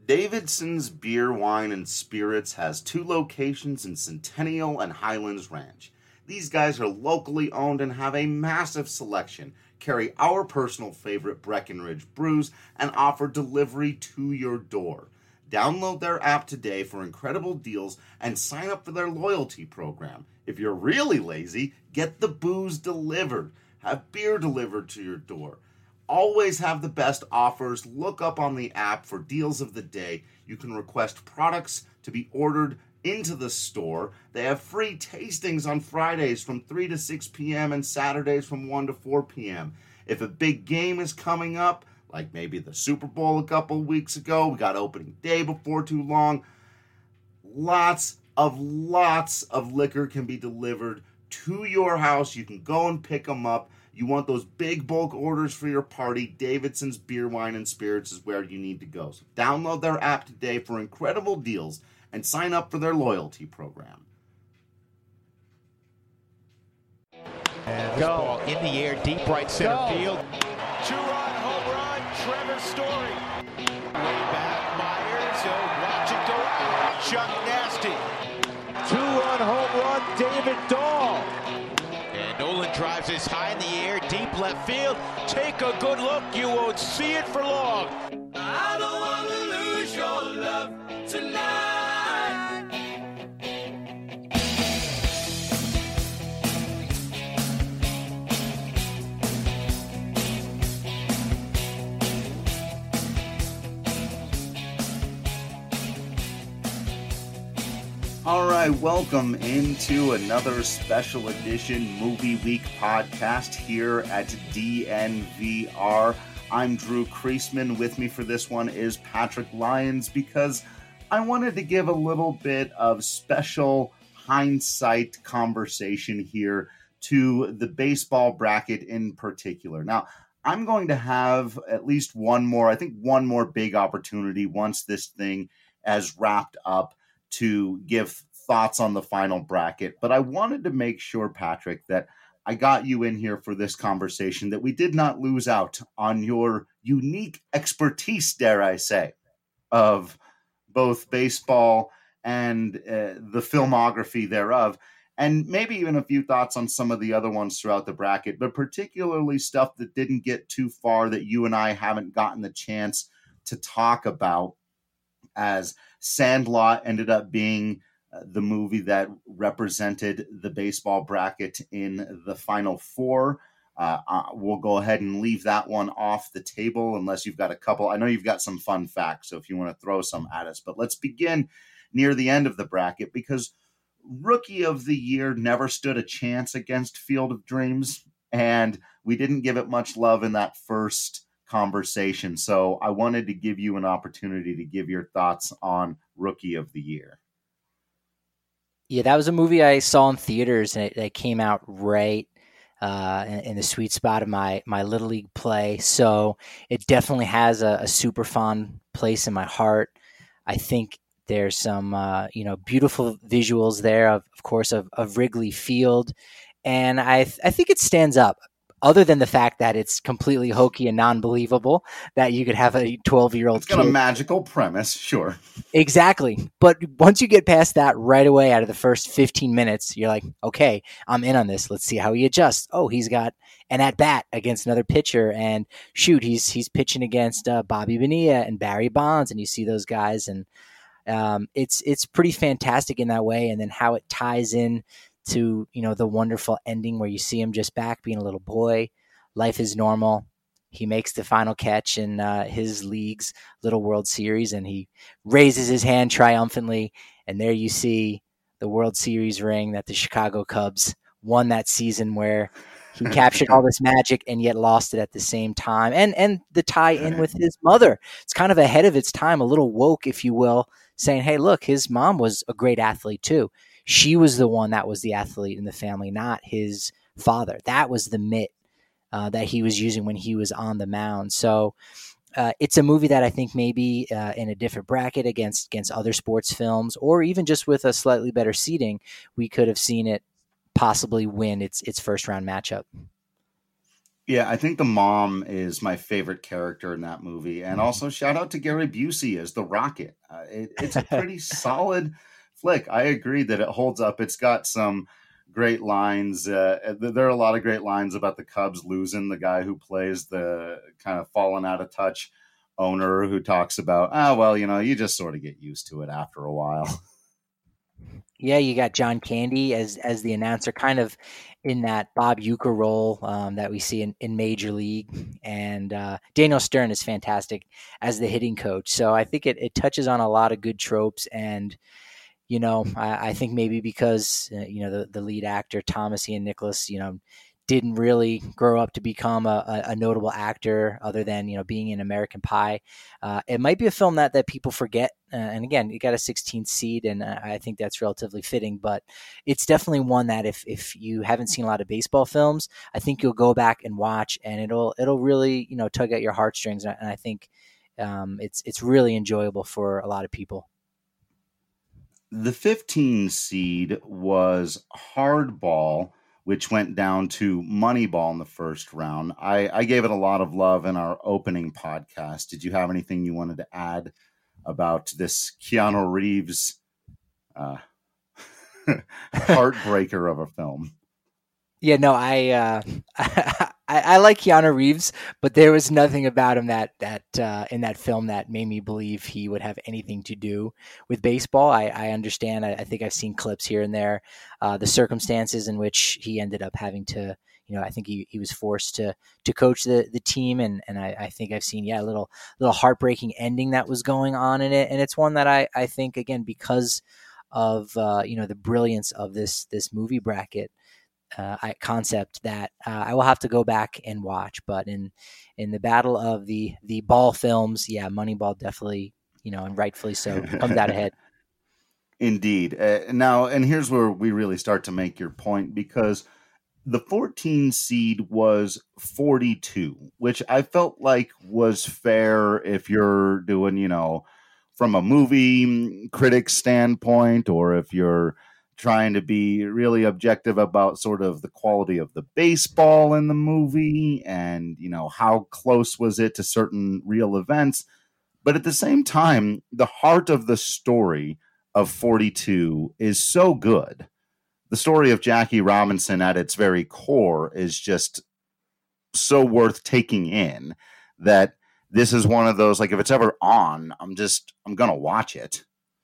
Davidson's Beer, Wine, and Spirits has 2 locations in Centennial and Highlands Ranch. These guys are locally owned and have a massive selection, carry our personal favorite Breckenridge brews, and offer delivery to your door. Download their app today for incredible deals and sign up for their loyalty program. If you're really lazy, get the booze delivered. Have beer delivered to your door. Always have the best offers. Look up on the app for deals of the day. You can request products to be ordered into the store. They have free tastings on Fridays from 3 to 6 p.m. and Saturdays from 1 to 4 p.m. If a big game is coming up, like maybe the Super Bowl a couple weeks ago, we got opening day before too long, lots of liquor can be delivered to your house. You can go and pick them up. You want those big bulk orders for your party, Davidson's Beer, Wine, and Spirits is where you need to go. So download their app today for incredible deals and sign up for their loyalty program. And this ball in the air, deep right center field. 2-run home run, Trevor Story. Way back, Myers, watch it go out. Chuck Nasty. 2-run home run, David Dahl. And Nolan drives this high in the air, deep left field. Take a good look, you won't see it for long. I don't want to lose your love tonight. All right, welcome into another special edition Movie Week podcast here at DNVR. I'm Drew Kreisman. With me for this one is Patrick Lyons because I wanted to give a little bit of special hindsight conversation here to the baseball bracket in particular. Now, I'm going to have at least one more big opportunity once this thing has wrapped up to give thoughts on the final bracket. But I wanted to make sure, Patrick, that I got you in here for this conversation, that we did not lose out on your unique expertise, dare I say, of both baseball and the filmography thereof, and maybe even a few thoughts on some of the other ones throughout the bracket, but particularly stuff that didn't get too far that you and I haven't gotten the chance to talk about, as Sandlot ended up being the movie that represented the baseball bracket in the Final Four. We'll go ahead and leave that one off the table unless you've got a couple. I know you've got some fun facts, so if you want to throw some at us. But let's begin near the end of the bracket, because Rookie of the Year never stood a chance against Field of Dreams, and we didn't give it much love in that first conversation. So I wanted to give you an opportunity to give your thoughts on Rookie of the Year. Yeah, that was a movie I saw in theaters, and it came out right in the sweet spot of my Little League play. So it definitely has a super fond place in my heart. I think there's some beautiful visuals there, of course, of Wrigley Field, and I think it stands up. Other than the fact that it's completely hokey and non-believable that you could have a 12-year-old kid. It's got a magical premise, sure. Exactly. But once you get past that right away out of the first 15 minutes, you're like, okay, I'm in on this. Let's see how he adjusts. Oh, he's got an at-bat against another pitcher. And shoot, he's pitching against Bobby Bonilla and Barry Bonds. And you see those guys. And it's pretty fantastic in that way. And then how it ties in to, the wonderful ending where you see him just back being a little boy. Life is normal. He makes the final catch in his league's Little World Series, and he raises his hand triumphantly. And there you see the World Series ring that the Chicago Cubs won that season, where he captured all this magic and yet lost it at the same time. And the tie in with his mother. It's kind of ahead of its time, a little woke, if you will, saying, hey, look, his mom was a great athlete too. She was the one that was the athlete in the family, not his father. That was the mitt that he was using when he was on the mound. So it's a movie that I think maybe in a different bracket against other sports films, or even just with a slightly better seating, we could have seen it possibly win its first round matchup. Yeah, I think the mom is my favorite character in that movie. And also shout out to Gary Busey as the Rocket. It's a pretty solid flick. I agree that it holds up. It's got some great lines. There are a lot of great lines about the Cubs losing the guy who plays the kind of fallen out of touch owner who talks about, well, you just sort of get used to it after a while. Yeah, you got John Candy as the announcer, kind of in that Bob Uecker role that we see in Major League, and Daniel Stern is fantastic as the hitting coach. So I think it touches on a lot of good tropes, and I think maybe because the lead actor Thomas Ian Nicholas, didn't really grow up to become a notable actor other than being in American Pie. It might be a film that people forget, and again, it got a 16th seed, and I think that's relatively fitting. But it's definitely one that if you haven't seen a lot of baseball films, I think you'll go back and watch, and it'll really tug at your heartstrings, and I think it's really enjoyable for a lot of people. The 15 seed was Hardball, which went down to Moneyball in the first round. I gave it a lot of love in our opening podcast. Did you have anything you wanted to add about this Keanu Reeves heartbreaker of a film? Yeah, no, I like Keanu Reeves, but there was nothing about him that in that film that made me believe he would have anything to do with baseball. I understand. I think I've seen clips here and there, the circumstances in which he ended up having to. I think he was forced to coach the team, and I think I've seen a little heartbreaking ending that was going on in it, and it's one that I think again because of the brilliance of this movie bracket. Concept that I will have to go back and watch. But in the battle of the ball films, Moneyball definitely, and rightfully so, comes out ahead. Indeed. Now, and here's where we really start to make your point, because the 14 seed was 42, which I felt like was fair if you're doing, from a movie critic standpoint, or if you're trying to be really objective about sort of the quality of the baseball in the movie and, how close was it to certain real events. But at the same time, the heart of the story of 42 is so good. The story of Jackie Robinson at its very core is just so worth taking in that this is one of those, like, if it's ever on, I'm going to watch it.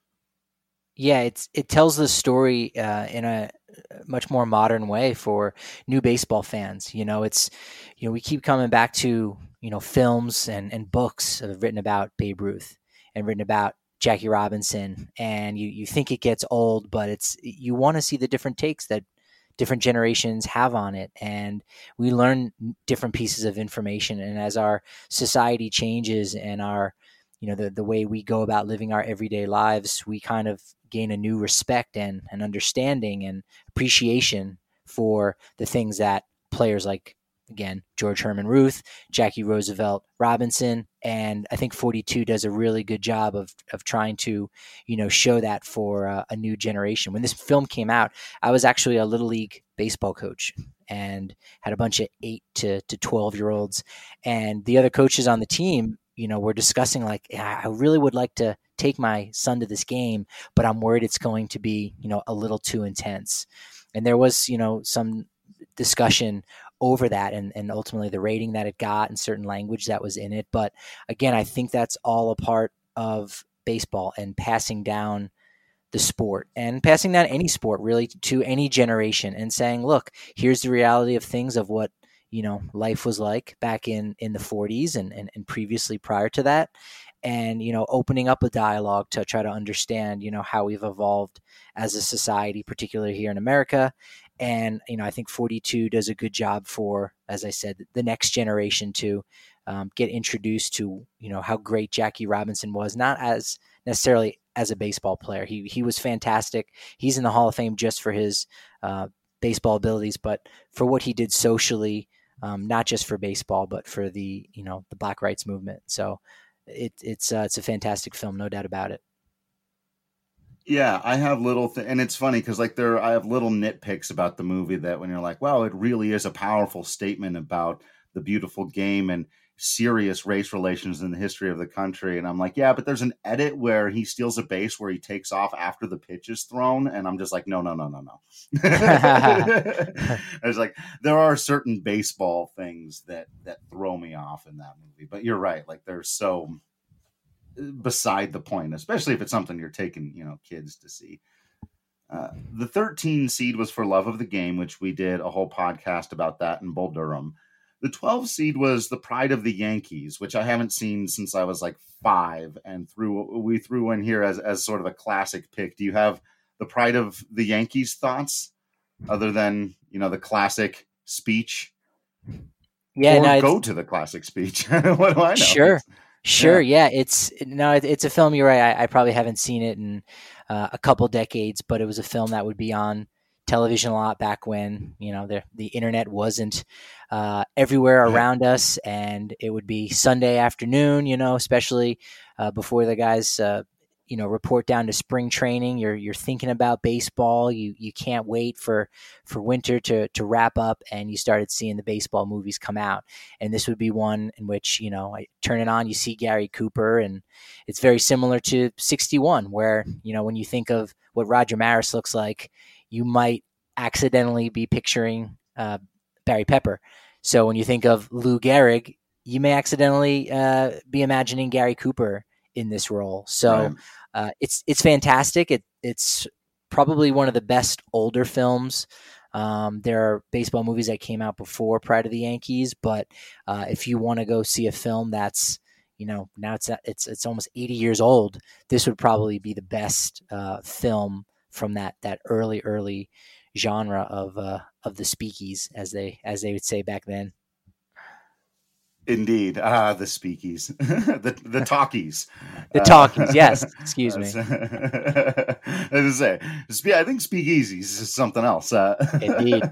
Yeah, it tells the story in a much more modern way for new baseball fans. It's we keep coming back to films and books written about Babe Ruth and written about Jackie Robinson, and you think it gets old, but you want to see the different takes that different generations have on it, and we learn different pieces of information. And as our society changes and our the way we go about living our everyday lives, we kind of gain a new respect and understanding and appreciation for the things that players like, again, George Herman Ruth, Jackie Roosevelt Robinson, and I think 42 does a really good job of trying to, show that for a new generation. When this film came out, I was actually a Little League baseball coach and had a bunch of 8 to 12-year-olds, and the other coaches on the team, we're discussing like, I really would like to take my son to this game, but I'm worried it's going to be, a little too intense. And there was, some discussion over that and ultimately the rating that it got and certain language that was in it. But again, I think that's all a part of baseball and passing down the sport and passing down any sport really to any generation and saying, look, here's the reality of things, of what life was like back in the 40s and previously prior to that. And, opening up a dialogue to try to understand, how we've evolved as a society, particularly here in America. And, I think 42 does a good job for, as I said, the next generation to get introduced to, how great Jackie Robinson was, not as necessarily as a baseball player. He was fantastic. He's in the Hall of Fame just for his baseball abilities, but for what he did socially, not just for baseball, but for the the Black rights movement. So it's a fantastic film, no doubt about it. Yeah, I have and it's funny because I have little nitpicks about the movie that when you're like, wow, it really is a powerful statement about the beautiful game and serious race relations in the history of the country. And I'm like, yeah, but there's an edit where he steals a base where he takes off after the pitch is thrown. And I'm just like, no. It's like, there are certain baseball things that throw me off in that movie, but you're right. Like, they're so beside the point, especially if it's something you're taking, kids to see. The 13 seed was For Love of the Game, which we did a whole podcast about that in Bull Durham. The 12 seed was The Pride of the Yankees, which I haven't seen since I was like 5, and we threw in here as sort of a classic pick. Do you have The Pride of the Yankees thoughts other than, the classic speech? Yeah, or go to the classic speech. What do I know? Sure. Yeah. It's a film. You're right. I probably haven't seen it in a couple decades, but it was a film that would be on television a lot back when, the internet wasn't everywhere around us, and it would be Sunday afternoon, especially before the guys, report down to spring training. You're thinking about baseball. You can't wait for winter to wrap up, and you started seeing the baseball movies come out. And this would be one in which, I turn it on, you see Gary Cooper, and it's very similar to 61, where, when you think of what Roger Maris looks like, you might accidentally be picturing Barry Pepper. So when you think of Lou Gehrig, you may accidentally be imagining Gary Cooper in this role. So it's fantastic. It's probably one of the best older films. There are baseball movies that came out before Pride of the Yankees, but if you want to go see a film that's, now it's almost 80 years old, this would probably be the best film from that early genre of the speakies, as they would say back then. Indeed. The speakies, the talkies, yes. Excuse me. As I say, I think speakeasies is something else. Indeed.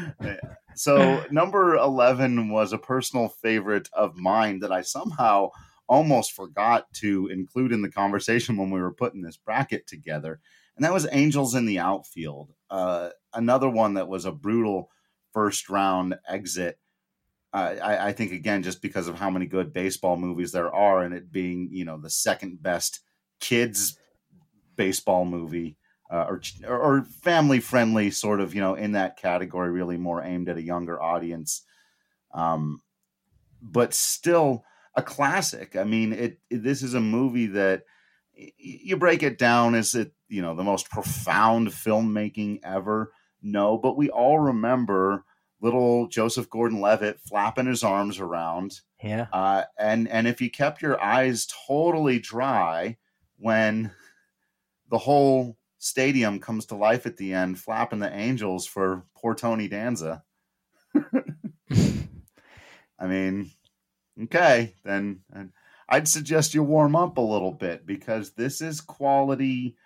So number 11 was a personal favorite of mine that I somehow almost forgot to include in the conversation when we were putting this bracket together. And that was Angels in the Outfield. Another one that was a brutal first round exit. I think, again, just because of how many good baseball movies there are, and it being, the second best kids baseball movie or family friendly sort of, in that category, really more aimed at a younger audience. But still a classic. I mean, this is a movie that you break it down. Is it, the most profound filmmaking ever? No, but we all remember little Joseph Gordon-Levitt flapping his arms around. Yeah. And if you kept your eyes totally dry when the whole stadium comes to life at the end, flapping the Angels for poor Tony Danza. I mean, okay, then I'd suggest you warm up a little bit, because this is quality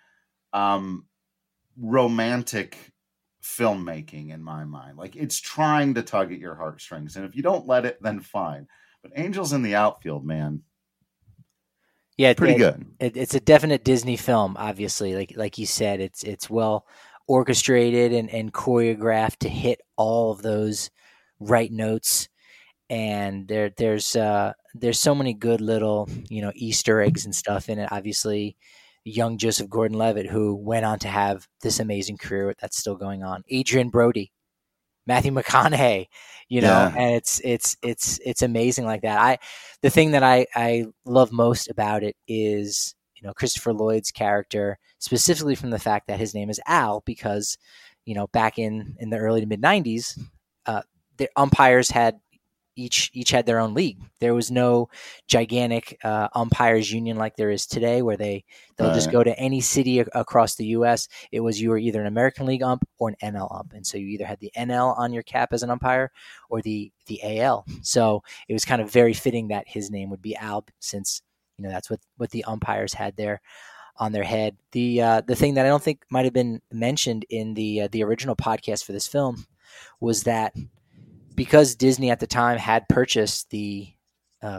romantic filmmaking in my mind. Like, it's trying to tug at your heartstrings, and if you don't let it, then fine. But Angels in the Outfield, man, pretty good. It's a definite Disney film, obviously. Like you said, it's well orchestrated and choreographed to hit all of those right notes, and there's so many good little Easter eggs and stuff in it. Obviously, young Joseph Gordon-Levitt, who went on to have this amazing career that's still going on. Adrian Brody, Matthew McConaughey, and it's amazing like that. The thing that I love most about it is, Christopher Lloyd's character, specifically from the fact that his name is Al, because, back in the early to mid 90s, the umpires had each had their own league. There was no gigantic umpires union like there is today, where they'll just go to any city across the U.S. It was, you were either an American League ump or an NL ump, and so you either had the NL on your cap as an umpire or the AL. So it was kind of very fitting that his name would be Al, since that's what the umpires had there on their head. The thing that I don't think might have been mentioned in the original podcast for this film was that, because Disney at the time had purchased the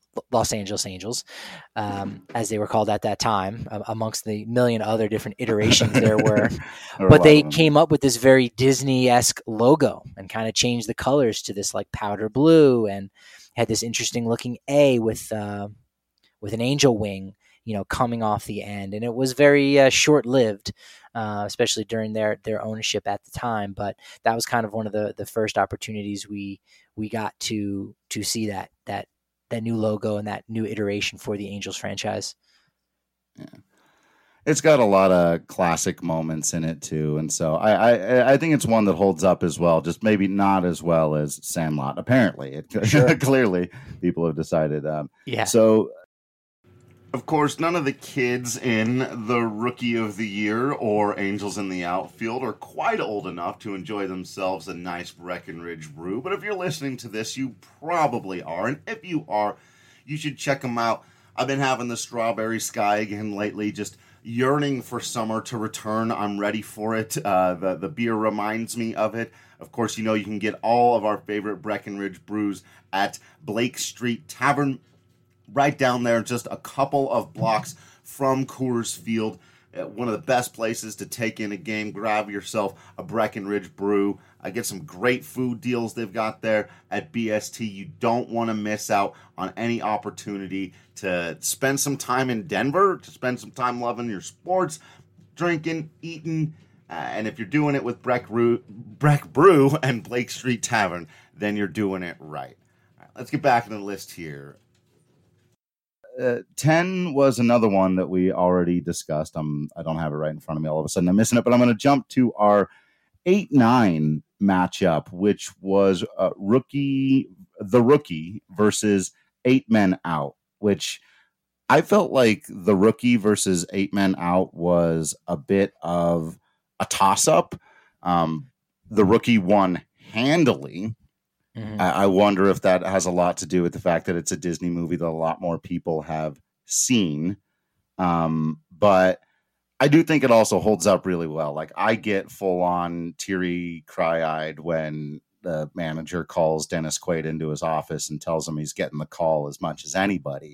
Los Angeles Angels, as they were called at that time, amongst the million other different iterations there were. But they came up with this very Disney-esque logo and kind of changed the colors to this like powder blue, and had this interesting looking A with an angel wing, coming off the end. And it was very short-lived, especially during their ownership at the time. But that was kind of one of the first opportunities we got to see that new logo and that new iteration for the Angels franchise. Yeah. It's got a lot of classic moments in it too. And so I think it's one that holds up as well, just maybe not as well as Sandlot. Apparently Sure. Clearly people have decided. Yeah. So of course, none of the kids in the Rookie of the Year or Angels in the Outfield are quite old enough to enjoy themselves a nice Breckenridge brew. But if you're listening to this, you probably are. And if you are, you should check them out. I've been having the Strawberry Sky again lately, just yearning for summer to return. I'm ready for it. The beer reminds me of it. Of course, you can get all of our favorite Breckenridge brews at Blake Street Tavern, right down there, just a couple of blocks from Coors Field. One of the best places to take in a game. Grab yourself a Breckenridge brew. Get some great food deals they've got there at BST. You don't want to miss out on any opportunity to spend some time in Denver, to spend some time loving your sports, drinking, eating. And if you're doing it with Breck Brew and Blake Street Tavern, then you're doing it right. All right, let's get back in the list here. 10 was another one that we already discussed. I don't have it right in front of me. All of a sudden I'm missing it, but I'm going to jump to our 8-9 matchup, which was the Rookie versus 8 Men Out, which I felt like the Rookie versus 8 Men Out was a bit of a toss-up. The Rookie won handily. Mm-hmm. I wonder if that has a lot to do with the fact that it's a Disney movie that a lot more people have seen. But I do think it also holds up really well. Like, I get full on teary, cry-eyed when the manager calls Dennis Quaid into his office and tells him he's getting the call as much as anybody.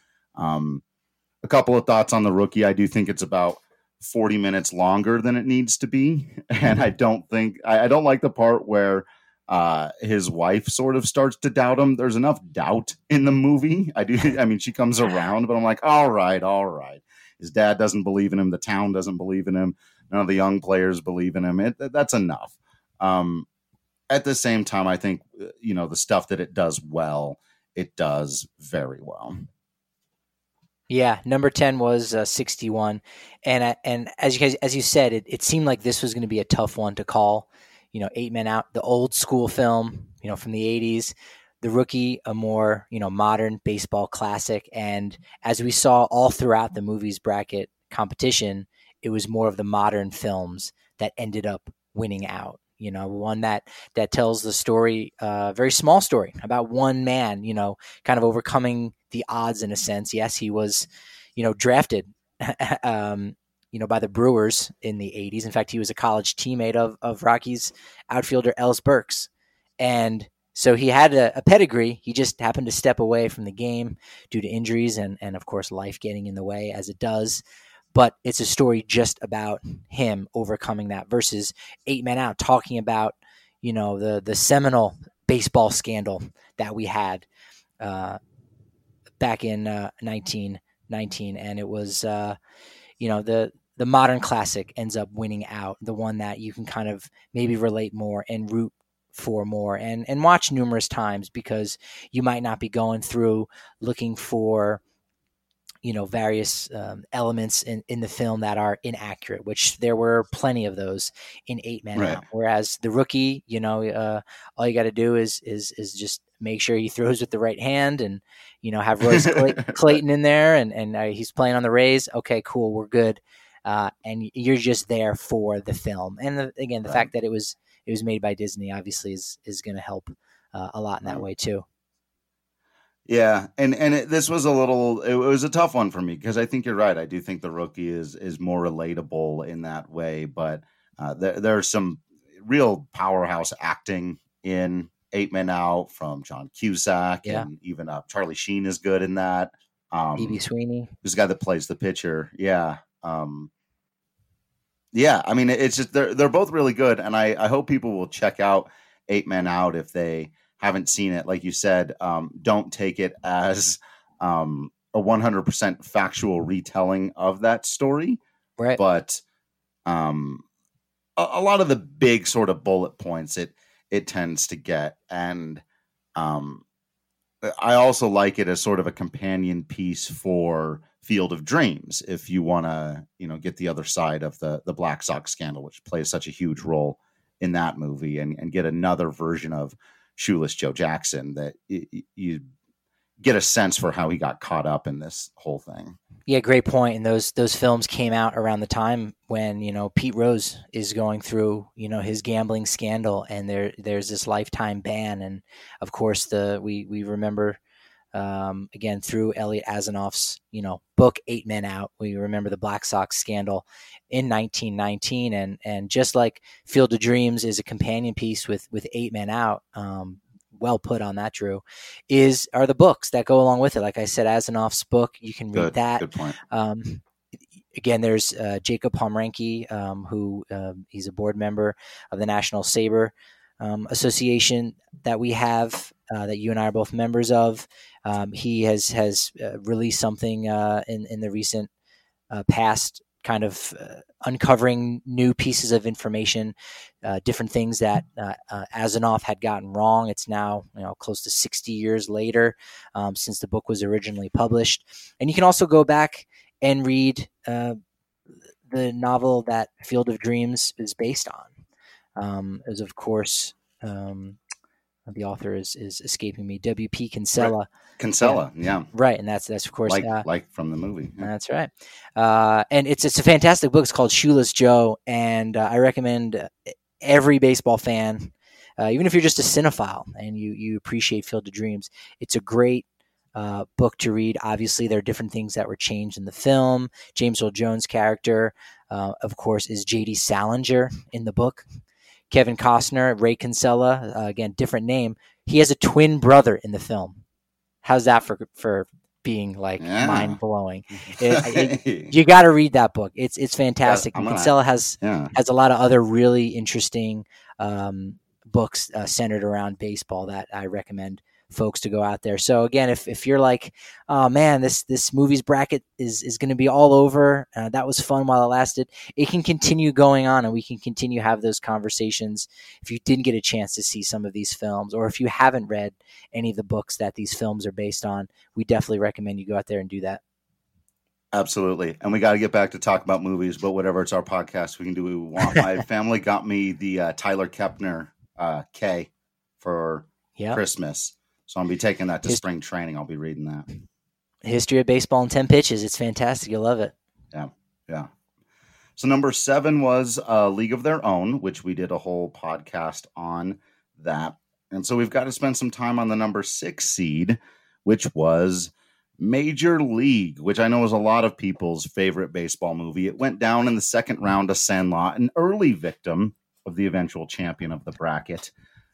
A couple of thoughts on the Rookie. I do think it's about 40 minutes longer than it needs to be. And I don't like the part where his wife sort of starts to doubt him. There's enough doubt in the movie. She comes around, but I'm like, all right. His dad doesn't believe in him. The town doesn't believe in him. None of the young players believe in him. That's enough. At the same time, I think, the stuff that it does well, it does very well. Yeah, number 10 was 61. And as you said, it seemed like this was going to be a tough one to call. 8 Men Out, the old school film, from the 80s. The Rookie, a more, modern baseball classic. And as we saw all throughout the movie's bracket competition, it was more of the modern films that ended up winning out. One that tells the story, very small story about one man, kind of overcoming the odds in a sense. Yes, he was, drafted, by the Brewers in the 80s. In fact, he was a college teammate of Rockies outfielder Ellis Burks. And so he had a pedigree. He just happened to step away from the game due to injuries and of course, life getting in the way as it does. But it's a story just about him overcoming that versus 8 Men Out, talking about, the seminal baseball scandal that we had back in 1919. And it was, the modern classic ends up winning out, the one that you can kind of maybe relate more and root for more and watch numerous times, because you might not be going through looking for, various elements in the film that are inaccurate, which there were plenty of those in 8 Men Out. Whereas the Rookie, all you got to do is just make sure he throws with the right hand and, have Royce Clayton in there and he's playing on the Rays. Okay, cool. We're good. And you're just there for the film. And the fact that it was made by Disney obviously is going to help a lot in that way too. Yeah. This was it was a tough one for me because I think you're right. I do think the Rookie is more relatable in that way, but there's some real powerhouse acting in Eight Men Out from John Cusack, Yeah. and even Charlie Sheen is good in that. E.B. Sweeney, who's the guy that plays the pitcher. Yeah. Yeah, I mean, it's just they're both really good, and I hope people will check out Eight Men Out if they haven't seen it. Like you said, don't take it as a 100% factual retelling of that story, right? But a lot of the big sort of bullet points it tends to get, and I also like it as sort of a companion piece for Field of Dreams, if you want to, get the other side of the Black Sox scandal, which plays such a huge role in that movie, and get another version of Shoeless Joe Jackson that you get a sense for how he got caught up in this whole thing. Yeah, great point. And those films came out around the time when, Pete Rose is going through, his gambling scandal, and there's this lifetime ban. And of course we remember again through Elliot Asanoff's, book Eight Men Out, we remember the Black Sox scandal in 1919, and just like Field of Dreams is a companion piece with Eight Men Out, well put on that, Drew, are the books that go along with it. Like I said, Asanoff's book, you can read that. Good point. Again, there's Jacob Pomrenke, who he's a board member of the National Saber Association that we have, that you and I are both members of. He has released something in the recent past, kind of uncovering new pieces of information, different things that Asanoff had gotten wrong. It's now close to 60 years later since the book was originally published. And you can also go back and read the novel that Field of Dreams is based on. As of course, the author is escaping me, W.P. Kinsella. Right. Kinsella, yeah. Right, and that's of course like from the movie. Yeah. That's right. And it's a fantastic book. It's called Shoeless Joe, and I recommend every baseball fan, even if you're just a cinephile and you appreciate Field of Dreams, it's a great book to read. Obviously, there are different things that were changed in the film. James Earl Jones' character, of course, is J.D. Salinger in the book. Kevin Costner, Ray Kinsella, again, different name. He has a twin brother in the film. How's that for being mind blowing? You got to read that book. It's fantastic. Kinsella has a lot of other really interesting books centered around baseball that I recommend folks to go out there. So again, if you're like, oh man, this movie's bracket is going to be all over, that was fun while it lasted, it can continue going on, and we can continue have those conversations if you didn't get a chance to see some of these films, or if you haven't read any of the books that these films are based on. We definitely recommend you go out there and do that. Absolutely. And we got to get back to talk about movies, but whatever, it's our podcast, we can do what we want. My family got me the Tyler Kepner K for Christmas. So I'll be taking that to spring training. I'll be reading that. History of Baseball in 10 Pitches. It's fantastic. You'll love it. Yeah. So number 7 was League of Their Own, which we did a whole podcast on that. And so we've got to spend some time on the number 6 seed, which was Major League, which I know is a lot of people's favorite baseball movie. It went down in the second round to Sandlot, an early victim of the eventual champion of the bracket.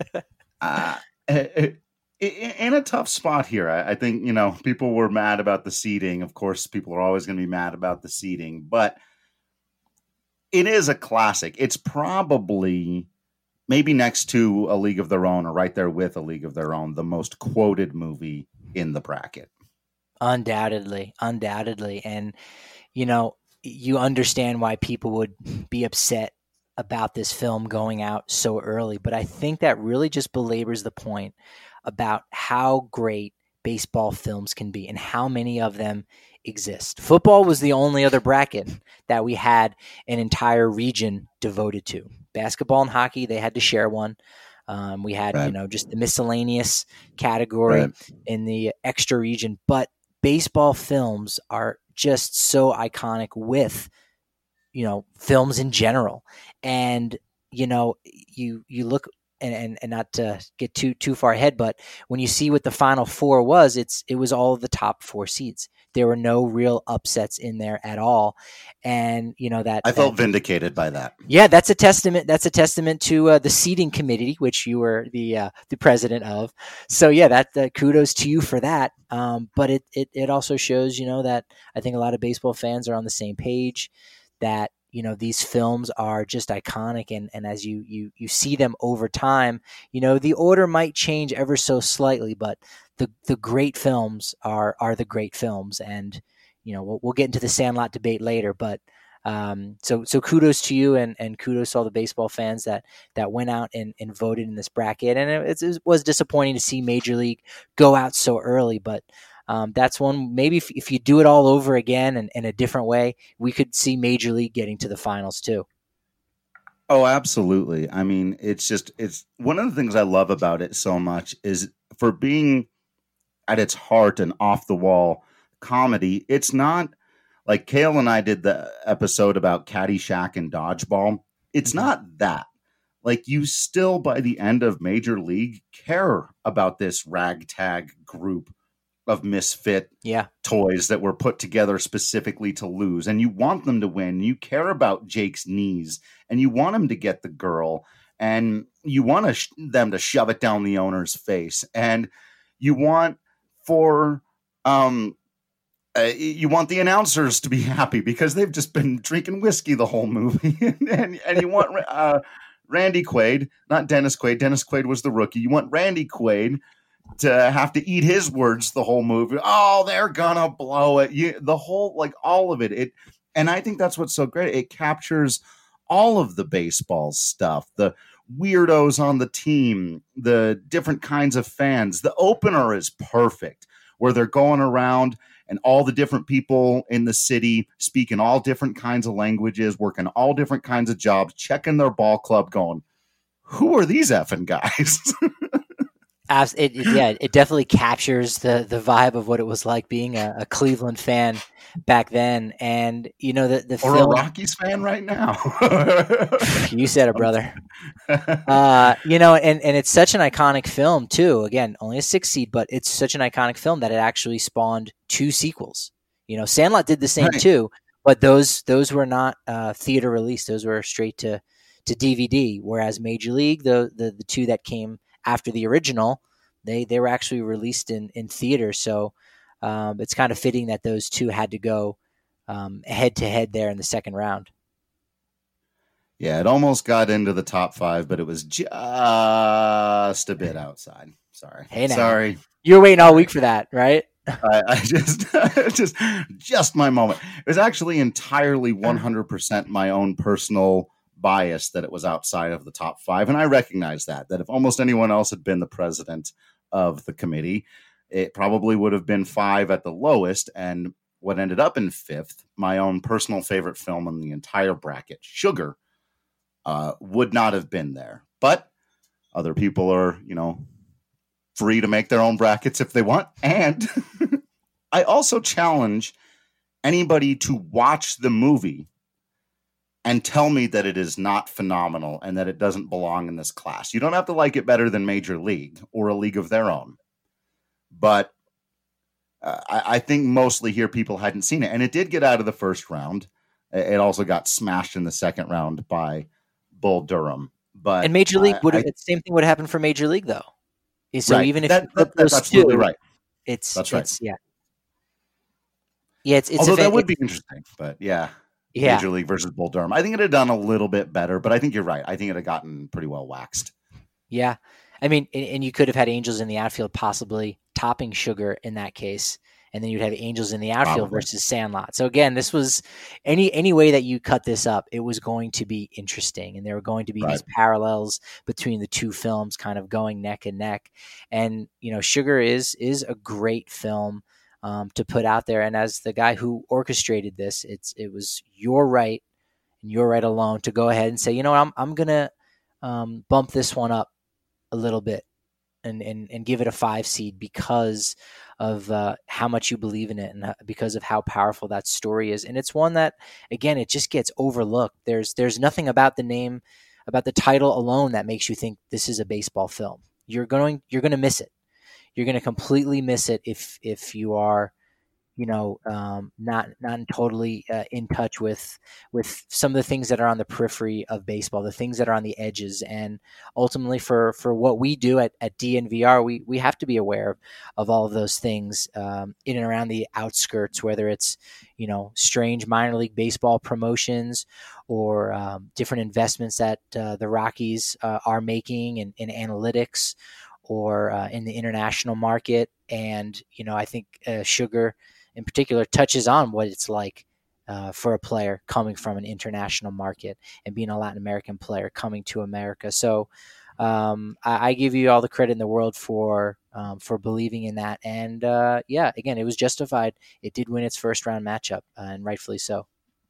In a tough spot here. I think, people were mad about the seeding. Of course, people are always going to be mad about the seeding, but it is a classic. It's probably maybe next to A League of Their Own, or right there with A League of Their Own, the most quoted movie in the bracket. Undoubtedly. And, you understand why people would be upset about this film going out so early, but I think that really just belabors the point about how great baseball films can be and how many of them exist. Football was the only other bracket that we had an entire region devoted to. Basketball and hockey, they had to share one. We had, just the miscellaneous category in the extra region, but baseball films are just so iconic with, films in general. And, you look and not to get too far ahead, but when you see what the Final Four was, it was all of the top 4 seeds. There were no real upsets in there at all, and that I felt vindicated by that. Yeah, that's a testament. That's a testament to the seeding committee, which you were the president of. So yeah, that kudos to you for that. But it also shows that I think a lot of baseball fans are on the same page. That these films are just iconic, and as you see them over time, the order might change ever so slightly, but the great films are the great films, and we'll get into the Sandlot debate later, but so kudos to you, and kudos to all the baseball fans that went out and voted in this bracket, and it was disappointing to see Major League go out so early, but that's one, maybe if you do it all over again and in a different way, we could see Major League getting to the finals too. Oh, absolutely. I mean, it's one of the things I love about it so much is for being at its heart an off the wall comedy. It's not like Kale and I did the episode about Caddyshack and Dodgeball. It's not that. Like, you still, by the end of Major League, care about this ragtag group of misfit toys that were put together specifically to lose. And you want them to win. You care about Jake's knees, and you want him to get the girl, and you want them to shove it down the owner's face. And you want you want the announcers to be happy because they've just been drinking whiskey the whole movie. and you want Randy Quaid, not Dennis Quaid. Dennis Quaid was the rookie. You want Randy Quaid to have to eat his words the whole movie. Oh, they're gonna blow it. The whole, like, all of it. And I think that's what's so great. It captures all of the baseball stuff, the weirdos on the team, the different kinds of fans. The opener is perfect, where they're going around and all the different people in the city speaking all different kinds of languages, working all different kinds of jobs, checking their ball club, going, who are these effing guys? It definitely captures the vibe of what it was like being a Cleveland fan back then, and the or film, a Rockies fan right now. You said it, brother. And it's such an iconic film too. Again, only a 6 seed, but it's such an iconic film that it actually spawned 2 sequels. Sandlot did the same too, but those were not theater released; those were straight to DVD. Whereas Major League, the 2 that came after the original, they were actually released in theater. So it's kind of fitting that those 2 had to go head to head there in the second round. Yeah, it almost got into the top 5, but it was just a bit outside. Sorry. Hey, now. Sorry. You were waiting all week for that, right? I just my moment. It was actually entirely 100% my own personal bias that it was outside of the top 5, and I recognize that if almost anyone else had been the president of the committee, it probably would have been 5 at the lowest. And what ended up in 5th, my own personal favorite film in the entire bracket, Sugar, would not have been there. But other people are free to make their own brackets if they want. And I also challenge anybody to watch the movie and tell me that it is not phenomenal and that it doesn't belong in this class. You don't have to like it better than Major League or A League of Their Own. But I think mostly here people hadn't seen it. And it did get out of the first round. It also got smashed in the second round by Bull Durham. But and Major League the same thing would happen for Major League, though. So right. even if that's absolutely right. That's right. It's although that would be interesting, but yeah. Major League versus Bull Durham. I think it had done a little bit better, but I think you're right. I think it had gotten pretty well waxed. Yeah. I mean, and you could have had Angels in the outfield possibly topping Sugar in that case, and then you'd have Angels in the outfield versus Sandlot. So again, this was any way that you cut this up, it was going to be interesting, and there were going to be these parallels between the 2 films kind of going neck and neck. And Sugar is a great film to put out there. And as the guy who orchestrated this, it was your right and your right alone to go ahead and say, I'm gonna bump this one up a little bit and give it a 5 seed because of how much you believe in it and because of how powerful that story is. And it's one that, again, it just gets overlooked. There's nothing about the name about the title alone that makes you think this is a baseball film. You're going to miss it. You're going to completely miss it if you are, not totally in touch with some of the things that are on the periphery of baseball, the things that are on the edges. And ultimately for what we do at DNVR, we have to be aware of all of those things in and around the outskirts, whether it's, strange minor league baseball promotions or different investments that the Rockies are making in analytics or in the international market. And, I think Sugar in particular touches on what it's like for a player coming from an international market and being a Latin American player coming to America. So I give you all the credit in the world for believing in that. And again, it was justified. It did win its first round matchup, and rightfully so.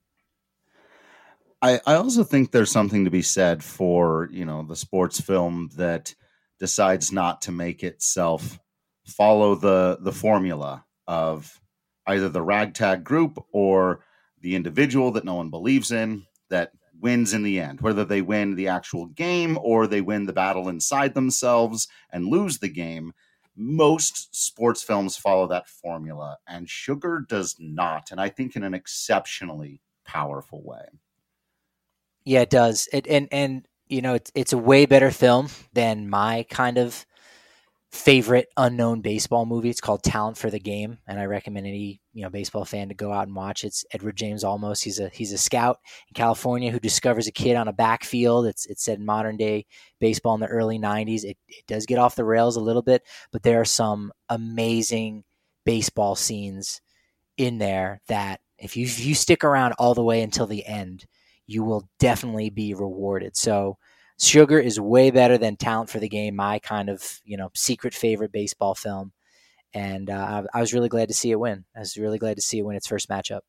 I also think there's something to be said for, the sports film that decides not to make itself follow the formula of either the ragtag group or the individual that no one believes in that wins in the end, whether they win the actual game or they win the battle inside themselves and lose the game. Most sports films follow that formula, and Sugar does not, and I think in an exceptionally powerful way. Yeah, it does. It's a way better film than my kind of favorite unknown baseball movie. It's called Talent for the Game, and I recommend any baseball fan to go out and watch. It's Edward James Olmos. He's a scout in California who discovers a kid on a backfield. It's set in modern day baseball in the early 90s. It does get off the rails a little bit, but there are some amazing baseball scenes in there that if you stick around all the way until the end, you will definitely be rewarded. So Sugar is way better than Talent for the Game, my kind of, secret favorite baseball film. And I was really glad to see it win. I was really glad to see it win its first matchup.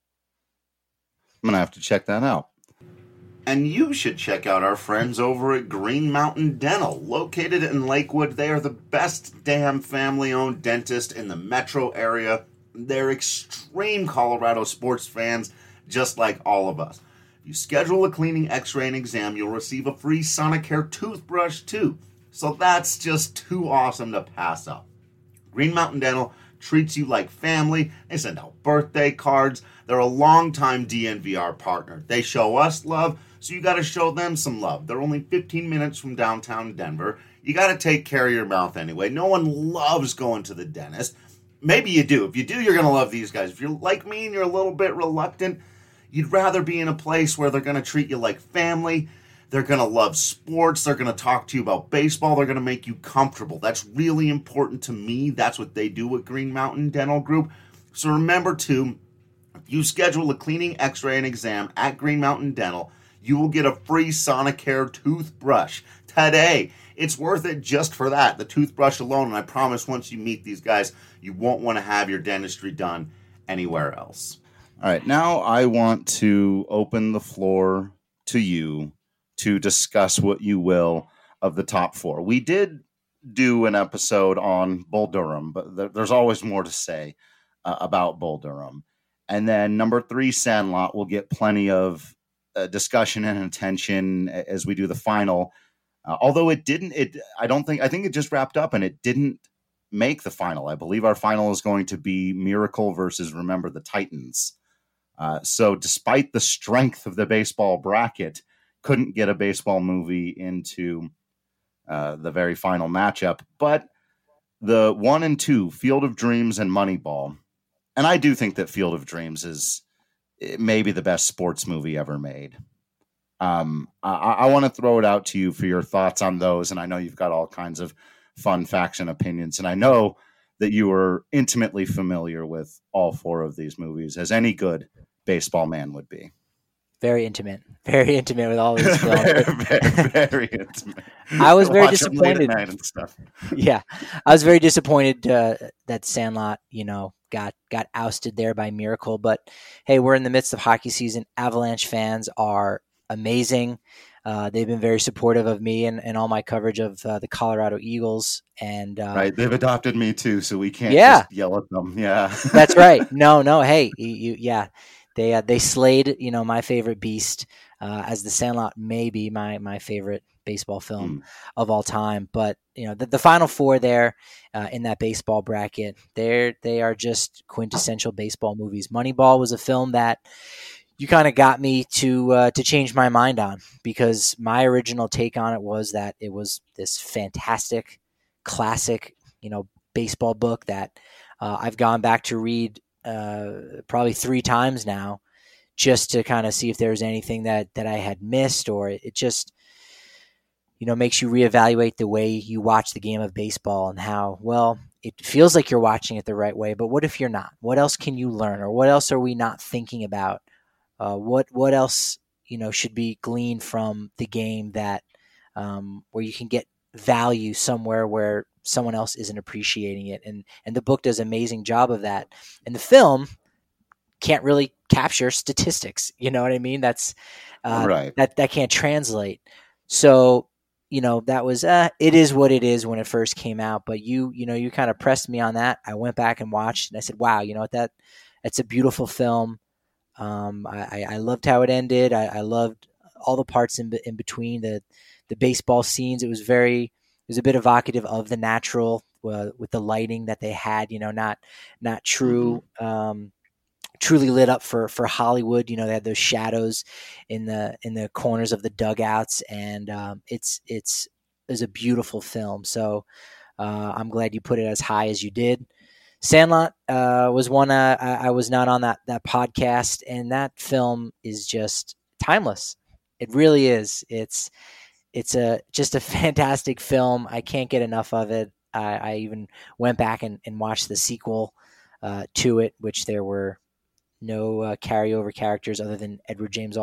I'm going to have to check that out. And you should check out our friends over at Green Mountain Dental. Located in Lakewood, they are the best damn family-owned dentist in the metro area. They're extreme Colorado sports fans, just like all of us. You schedule a cleaning, x-ray, and exam, you'll receive a free Sonicare toothbrush too. So that's just too awesome to pass up. Green Mountain Dental treats you like family. They send out birthday cards. They're a longtime DNVR partner. They show us love, so you got to show them some love. They're only 15 minutes from downtown Denver. You got to take care of your mouth anyway. No one loves going to the dentist. Maybe you do. If you do, you're going to love these guys. If you're like me and you're a little bit reluctant, you'd rather be in a place where they're going to treat you like family. They're going to love sports. They're going to talk to you about baseball. They're going to make you comfortable. That's really important to me. That's what they do at Green Mountain Dental Group. So remember to, if you schedule a cleaning, x-ray, and exam at Green Mountain Dental, you will get a free Sonicare toothbrush today. It's worth it just for that, the toothbrush alone. And I promise once you meet these guys, you won't want to have your dentistry done anywhere else. All right, now I want to open the floor to you to discuss what you will of the top four. We did do an episode on Bull Durham, but there's always more to say about Bull Durham. And then number 3, Sandlot, will get plenty of discussion and attention as we do the final. Although I think it just wrapped up and it didn't make the final. I believe our final is going to be Miracle versus Remember the Titans. So despite the strength of the baseball bracket, couldn't get a baseball movie into the very final matchup. But the 1 and 2, Field of Dreams and Moneyball, and I do think that Field of Dreams is maybe the best sports movie ever made. I want to throw it out to you for your thoughts on those, and I know you've got all kinds of fun facts and opinions, and I know that you are intimately familiar with all 4 of these movies, as any good baseball man would be. Very intimate with all these films. very intimate. I was very disappointed. And stuff. Yeah, I was very disappointed that Sandlot, got ousted there by Miracle. But hey, we're in the midst of hockey season. Avalanche fans are amazing. They've been very supportive of me and all my coverage of the Colorado Eagles. And right, they've adopted me too, so we can't just yell at them. Yeah, that's right. No. Hey, They slayed, my favorite beast as The Sandlot may be my favorite baseball film of all time. But the final four there in that baseball bracket, they are just quintessential baseball movies. Moneyball was a film that you kind of got me to change my mind on, because my original take on it was that it was this fantastic classic, baseball book that I've gone back to read probably 3 times now, just to kind of see if there was anything that I had missed, or it just, makes you reevaluate the way you watch the game of baseball and how, well, it feels like you're watching it the right way, but what if you're not? What else can you learn, or what else are we not thinking about? What else, should be gleaned from the game that where you can get value somewhere where someone else isn't appreciating it. And the book does an amazing job of that. And the film can't really capture statistics. You know what I mean? That's right. That can't translate. So, that was, it is what it is when it first came out, but you kind of pressed me on that. I went back and watched and I said, wow, that's a beautiful film. I loved how it ended. I loved all the parts in between the baseball scenes. It was a bit evocative of the natural with the lighting that they had, not true, truly lit up for Hollywood. They had those shadows in the corners of the dugouts, and it's a beautiful film. So I'm glad you put it as high as you did. Sandlot was one I was not on that podcast, and that film is just timeless. It really is. It's just a fantastic film. I can't get enough of it. I even went back and watched the sequel to it, which there were no carryover characters other than James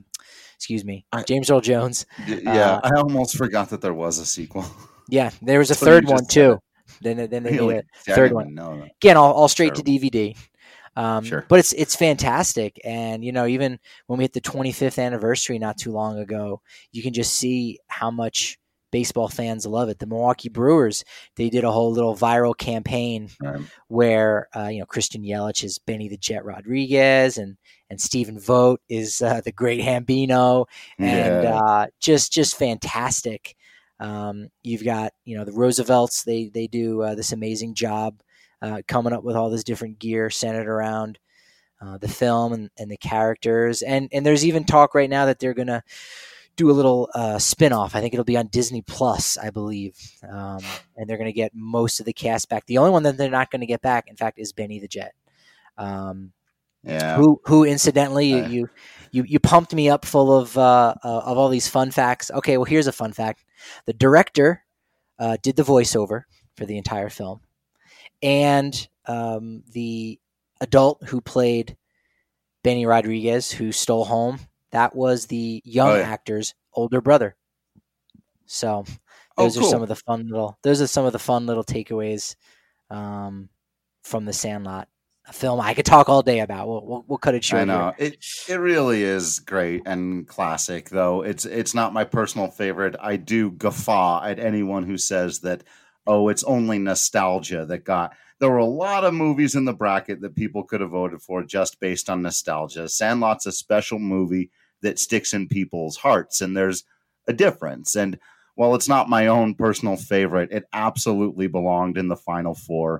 Earl Jones. Yeah, I almost forgot that there was a sequel. Yeah, there was a third one too. Then they really? made a third one. Know. Again, all straight to DVD. Sure. But it's fantastic. And, even when we hit the 25th anniversary not too long ago, you can just see how much baseball fans love it. The Milwaukee Brewers, they did a whole little viral campaign where, Christian Yelich is Benny the Jet Rodriguez, and Stephen Vogt is the great Hambino, and just fantastic. You've got, the Roosevelts, they do this amazing job coming up with all this different gear centered around the film and the characters. And there's even talk right now that they're going to do a little spin-off. I think it'll be on Disney Plus, I believe. And they're going to get most of the cast back. The only one that they're not going to get back, in fact, is Benny the Jet. Who incidentally, you pumped me up full of all these fun facts. Okay, well, here's a fun fact. The director did the voiceover for the entire film. And the adult who played Benny Rodriguez, who stole home, that was the young actor's older brother. So those are some of the fun little takeaways from The Sandlot, a film I could talk all day about. We'll cut it short. I know it really is great and classic, though it's not my personal favorite. I do guffaw at anyone who says that, it's only nostalgia that got. There were a lot of movies in the bracket that people could have voted for just based on nostalgia. Sandlot's a special movie that sticks in people's hearts, and there's a difference. And while it's not my own personal favorite, it absolutely belonged in the final four.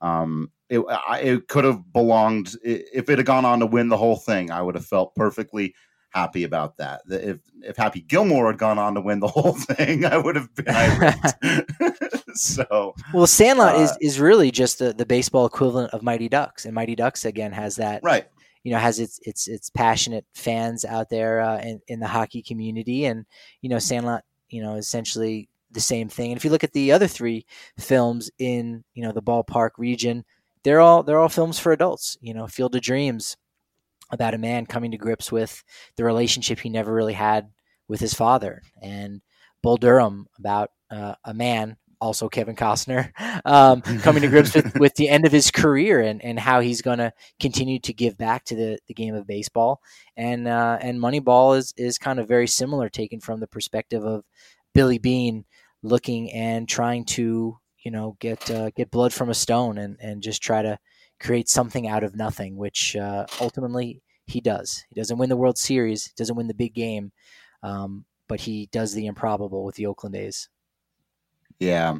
It could have belonged, if it had gone on to win the whole thing, I would have felt perfectly happy about that. If Happy Gilmore had gone on to win the whole thing, I would have been irate. So, well, Sandlot is really just the baseball equivalent of Mighty Ducks, and Mighty Ducks again has that, right? Has its passionate fans out there in the hockey community, and Sandlot, essentially the same thing. And if you look at the other 3 films in the ballpark region, they're all films for adults. Field of Dreams, about a man coming to grips with the relationship he never really had with his father, and Bull Durham, about a man, also Kevin Costner, coming to grips with the end of his career and how he's going to continue to give back to the game of baseball. And Moneyball is kind of very similar, taken from the perspective of Billy Beane looking and trying to, get blood from a stone and just try to create something out of nothing, which ultimately he does. He doesn't win the World Series, doesn't win the big game, but he does the improbable with the Oakland A's. Yeah.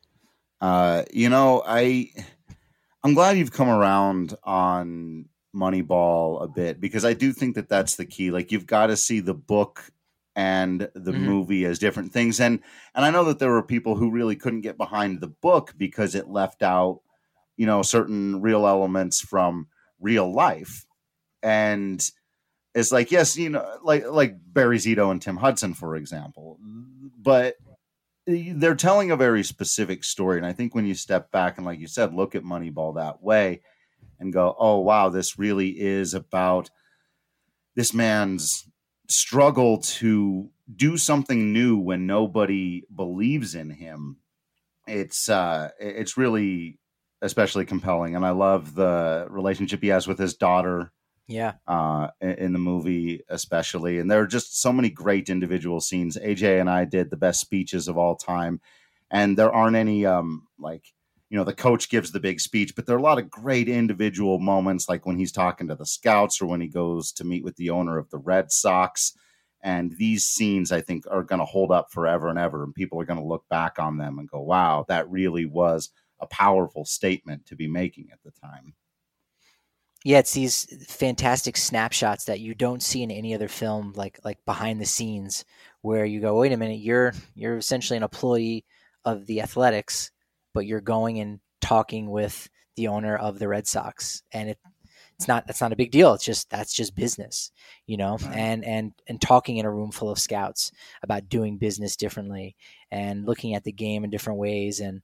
I'm glad you've come around on Moneyball a bit, because I do think that that's the key. Like, you've got to see the book and the movie as different things. And I know that there were people who really couldn't get behind the book because it left out, certain real elements from real life. And it's like, yes, like Barry Zito and Tim Hudson, for example, but they're telling a very specific story. And I think when you step back and, like you said, look at Moneyball that way and go, oh, wow, this really is about this man's struggle to do something new when nobody believes in him. It's really especially compelling. And I love the relationship he has with his daughter. Yeah. In the movie, especially. And there are just so many great individual scenes. AJ and I did the best speeches of all time. And there aren't any, the coach gives the big speech, but there are a lot of great individual moments, like when he's talking to the scouts or when he goes to meet with the owner of the Red Sox. And these scenes, I think, are going to hold up forever and ever. And people are going to look back on them and go, wow, that really was a powerful statement to be making at the time. Yeah, it's these fantastic snapshots that you don't see in any other film, like behind the scenes, where you go, wait a minute, you're essentially an employee of the Athletics, but you're going and talking with the owner of the Red Sox, and that's not a big deal. That's just business, right. and talking in a room full of scouts about doing business differently and looking at the game in different ways, and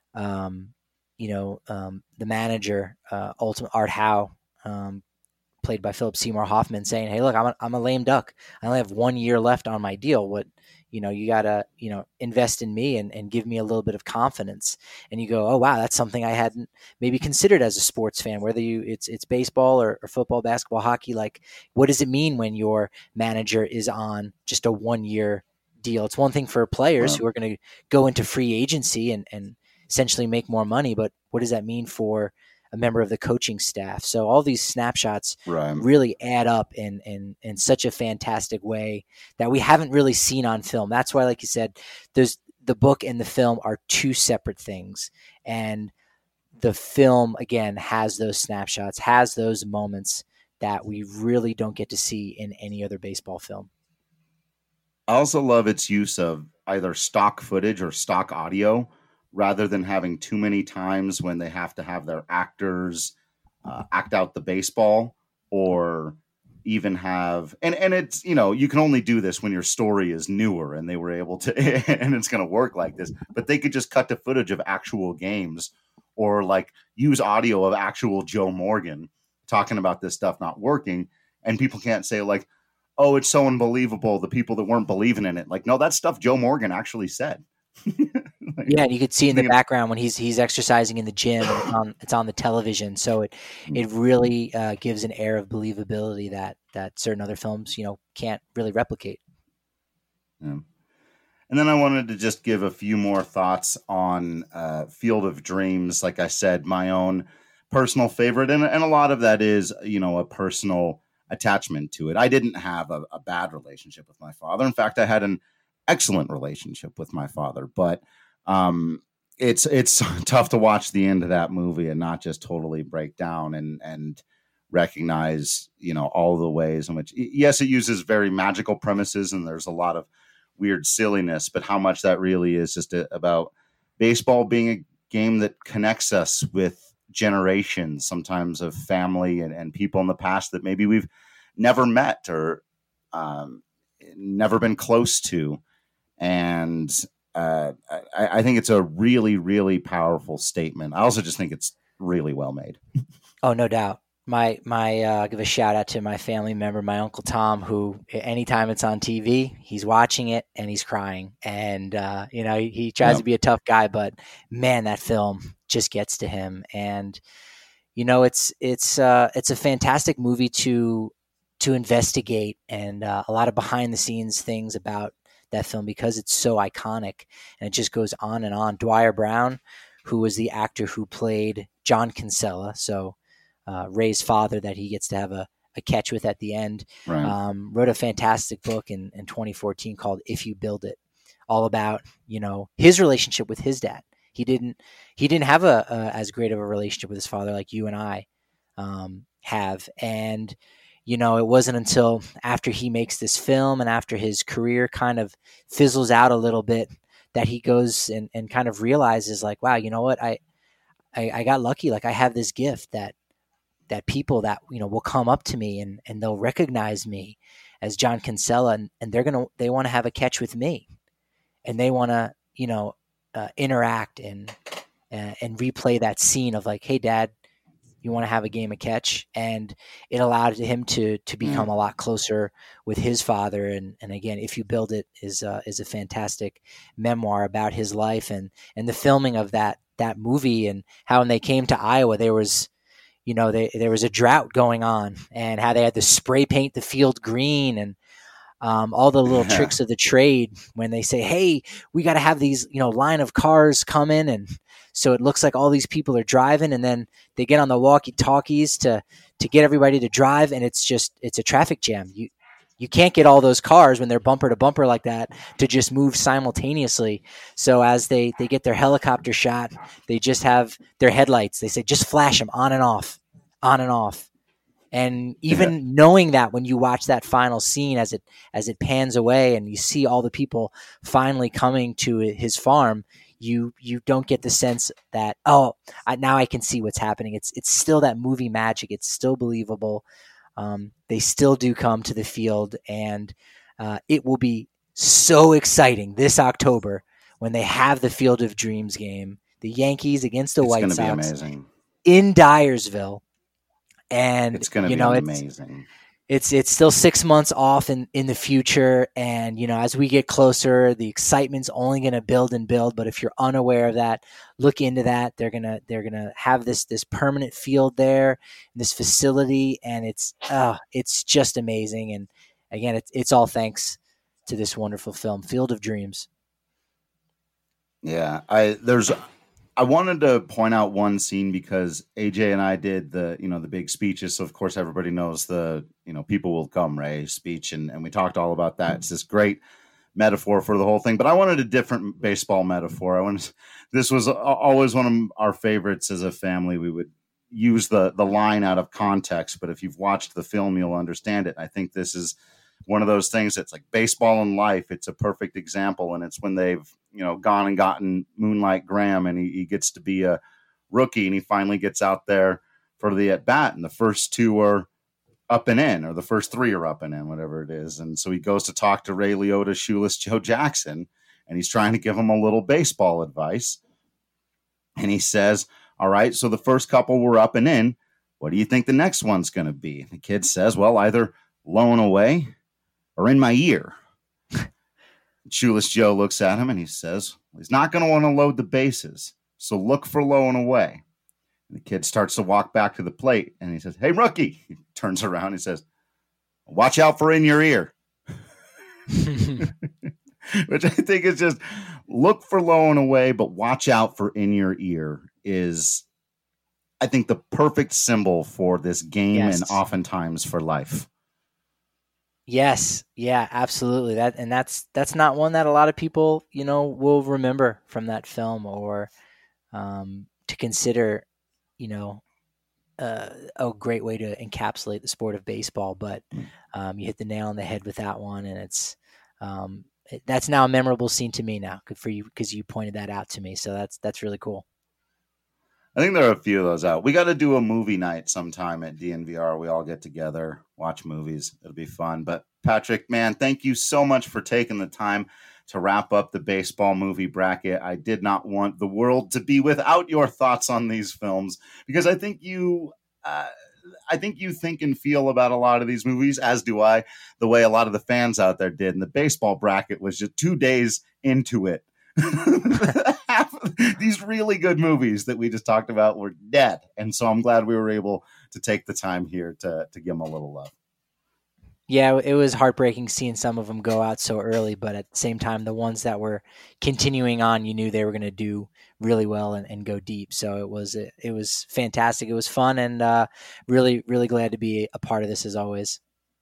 the manager, ultimate Art Howe. Played by Philip Seymour Hoffman, saying, "Hey, look, I'm a lame duck. I only have 1 year left on my deal. You gotta, invest in me and give me a little bit of confidence." And you go, "Oh wow, that's something I hadn't maybe considered as a sports fan. Whether it's baseball or football, basketball, hockey. Like, what does it mean when your manager is on just a 1 year deal? It's one thing for players who are going to go into free agency and essentially make more money, but what does that mean for a member of the coaching staff?" So all these snapshots really add up in such a fantastic way that we haven't really seen on film. That's why, like you said, there's the book and the film are two separate things. And the film, again, has those snapshots, has those moments that we really don't get to see in any other baseball film. I also love its use of either stock footage or stock audio, rather than having too many times when they have to have their actors act out the baseball, or even have, and it's, you can only do this when your story is newer and they were able to, and it's going to work like this, but they could just cut to footage of actual games, or like use audio of actual Joe Morgan talking about this stuff not working. And people can't say like, oh, it's so unbelievable, the people that weren't believing in it. Like, no, that's stuff Joe Morgan actually said. Yeah, and you could see in the background when he's exercising in the gym, it's on the television, so it really gives an air of believability that certain other films can't really replicate. Yeah. And then I wanted to just give a few more thoughts on Field of Dreams. Like I said, my own personal favorite, and a lot of that is a personal attachment to it. I didn't have a bad relationship with my father. In fact, I had an excellent relationship with my father, but it's tough to watch the end of that movie and not just totally break down and recognize, all the ways in which, yes, it uses very magical premises and there's a lot of weird silliness, but how much that really is just about baseball being a game that connects us with generations, sometimes of family and people in the past that maybe we've never met or never been close to. And I think it's a really, really powerful statement. I also just think it's really well made. Oh, no doubt. I'll give a shout out to my family member, my Uncle Tom, who anytime it's on TV, he's watching it and he's crying. And, he tries to be a tough guy, but man, that film just gets to him. And, it's a fantastic movie to investigate, and a lot of behind the scenes things about that film because it's so iconic and it just goes on and on. Dwyer Brown, who was the actor who played John Kinsella, so Ray's father that he gets to have a a catch with at the end. Right. Wrote a fantastic book in 2014 called If You Build It, all about, his relationship with his dad. He didn't have a as great of a relationship with his father like you and I have. And, it wasn't until after he makes this film and after his career kind of fizzles out a little bit that he goes and kind of realizes like, wow, you know what? I got lucky. Like I have this gift that people that, will come up to me and they'll recognize me as John Kinsella and they want to have a catch with me and they want to, interact and replay that scene of like, hey dad, you want to have a game of catch? And it allowed him to become a lot closer with his father. And again, If You Build It is a fantastic memoir about his life and the filming of that movie and how when they came to Iowa, there was, there was a drought going on and how they had to spray paint the field green and all the little tricks of the trade when they say, hey, we got to have these, line of cars come in. And so it looks like all these people are driving and then they get on the walkie-talkies to get everybody to drive. And it's a traffic jam. You can't get all those cars when they're bumper to bumper like that to just move simultaneously. So as they get their helicopter shot, they just have their headlights. They say, just flash them on and off, on and off. And even knowing that when you watch that final scene as it pans away and you see all the people finally coming to his farm, you don't get the sense that, now I can see what's happening. It's still that movie magic. It's still believable. They still do come to the field, and it will be so exciting this October when they have the Field of Dreams game, the Yankees against the White Sox. It's going to be amazing. In Dyersville. And it's going to be amazing. It's still 6 months off in the future. And, as we get closer, the excitement's only going to build and build. But if you're unaware of that, look into that. They're going to have this permanent field there, this facility. And it's just amazing. And again, it's all thanks to this wonderful film, Field of Dreams. Yeah. I wanted to point out one scene because AJ and I did the big speeches. So of course everybody knows the, people will come, Ray speech. And we talked all about that. It's this great metaphor for the whole thing, but I wanted a different baseball metaphor. This was always one of our favorites as a family. We would use the line out of context, but if you've watched the film, you'll understand it. I think this is one of those things that's like baseball in life. It's a perfect example. And it's when they've, gone and gotten Moonlight Graham and he gets to be a rookie and he finally gets out there for the at bat. And the first two are up and in, or the first three are up and in, whatever it is. And so he goes to talk to Ray Liotta, Shoeless Joe Jackson, and he's trying to give him a little baseball advice. And he says, all right, so the first couple were up and in. What do you think the next one's going to be? And the kid says, well, either low and away or in my ear. Shoeless Joe looks at him and he says, well, he's not going to want to load the bases, so look for low and away. And the kid starts to walk back to the plate and he says, hey, rookie. He turns around and he says, watch out for in your ear. Which I think is just look for low and away, but watch out for in your ear is, I think, the perfect symbol for this game and oftentimes for life. Yes. Yeah, absolutely. That's not one that a lot of people, will remember from that film or to consider, a great way to encapsulate the sport of baseball. But you hit the nail on the head with that one, and it's that's now a memorable scene to me now. Good for you because you pointed that out to me. So that's really cool. I think there are a few of those out. We got to do a movie night sometime at DNVR. We all get together, watch movies. It'll be fun. But Patrick, man, thank you so much for taking the time to wrap up the baseball movie bracket. I did not want the world to be without your thoughts on these films because I think you think and feel about a lot of these movies, as do I, the way a lot of the fans out there did. And the baseball bracket was just 2 days into it. These really good movies that we just talked about were dead. And so I'm glad we were able to take the time here to give them a little love. Yeah, it was heartbreaking seeing some of them go out so early, but at the same time, the ones that were continuing on, you knew they were going to do really well and go deep. So it was fantastic. It was fun, and really, really glad to be a part of this as always.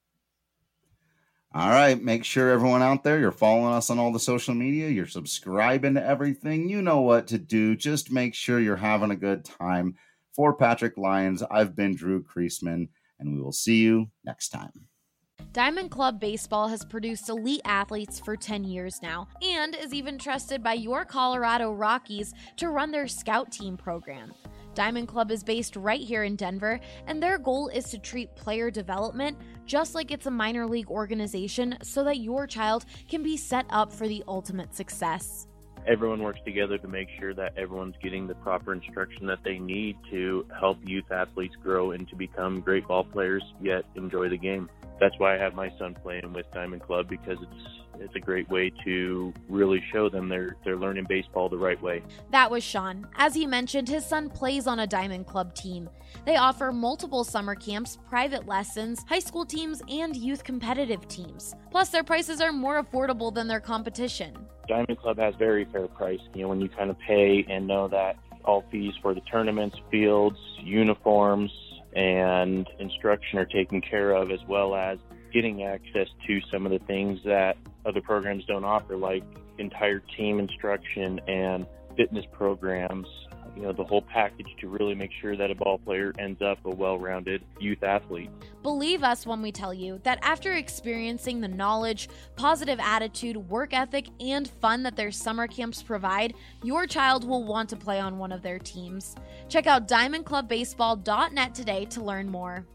All right, make sure everyone out there, you're following us on all the social media, you're subscribing to everything. You know what to do. Just make sure you're having a good time. For Patrick Lyons, I've been Drew Creasman, and we will see you next time. Diamond Club Baseball has produced elite athletes for 10 years now and is even trusted by your Colorado Rockies to run their scout team program. Diamond Club is based right here in Denver, and their goal is to treat player development just like it's a minor league organization so that your child can be set up for the ultimate success. Everyone works together to make sure that everyone's getting the proper instruction that they need to help youth athletes grow and to become great ball players, yet enjoy the game. That's why I have my son playing with Diamond Club, because it's a great way to really show them they're learning baseball the right way. That was Sean. As he mentioned, his son plays on a Diamond Club team. They offer multiple summer camps, private lessons, high school teams, and youth competitive teams. Plus, their prices are more affordable than their competition. Diamond Club has very fair price. When you kind of pay and know that all fees for the tournaments, fields, uniforms, and instruction are taken care of, as well as getting access to some of the things that other programs don't offer, like entire team instruction and fitness programs, the whole package to really make sure that a ball player ends up a well-rounded youth athlete. Believe us when we tell you that after experiencing the knowledge, positive attitude, work ethic, and fun that their summer camps provide, your child will want to play on one of their teams. Check out diamondclubbaseball.net today to learn more.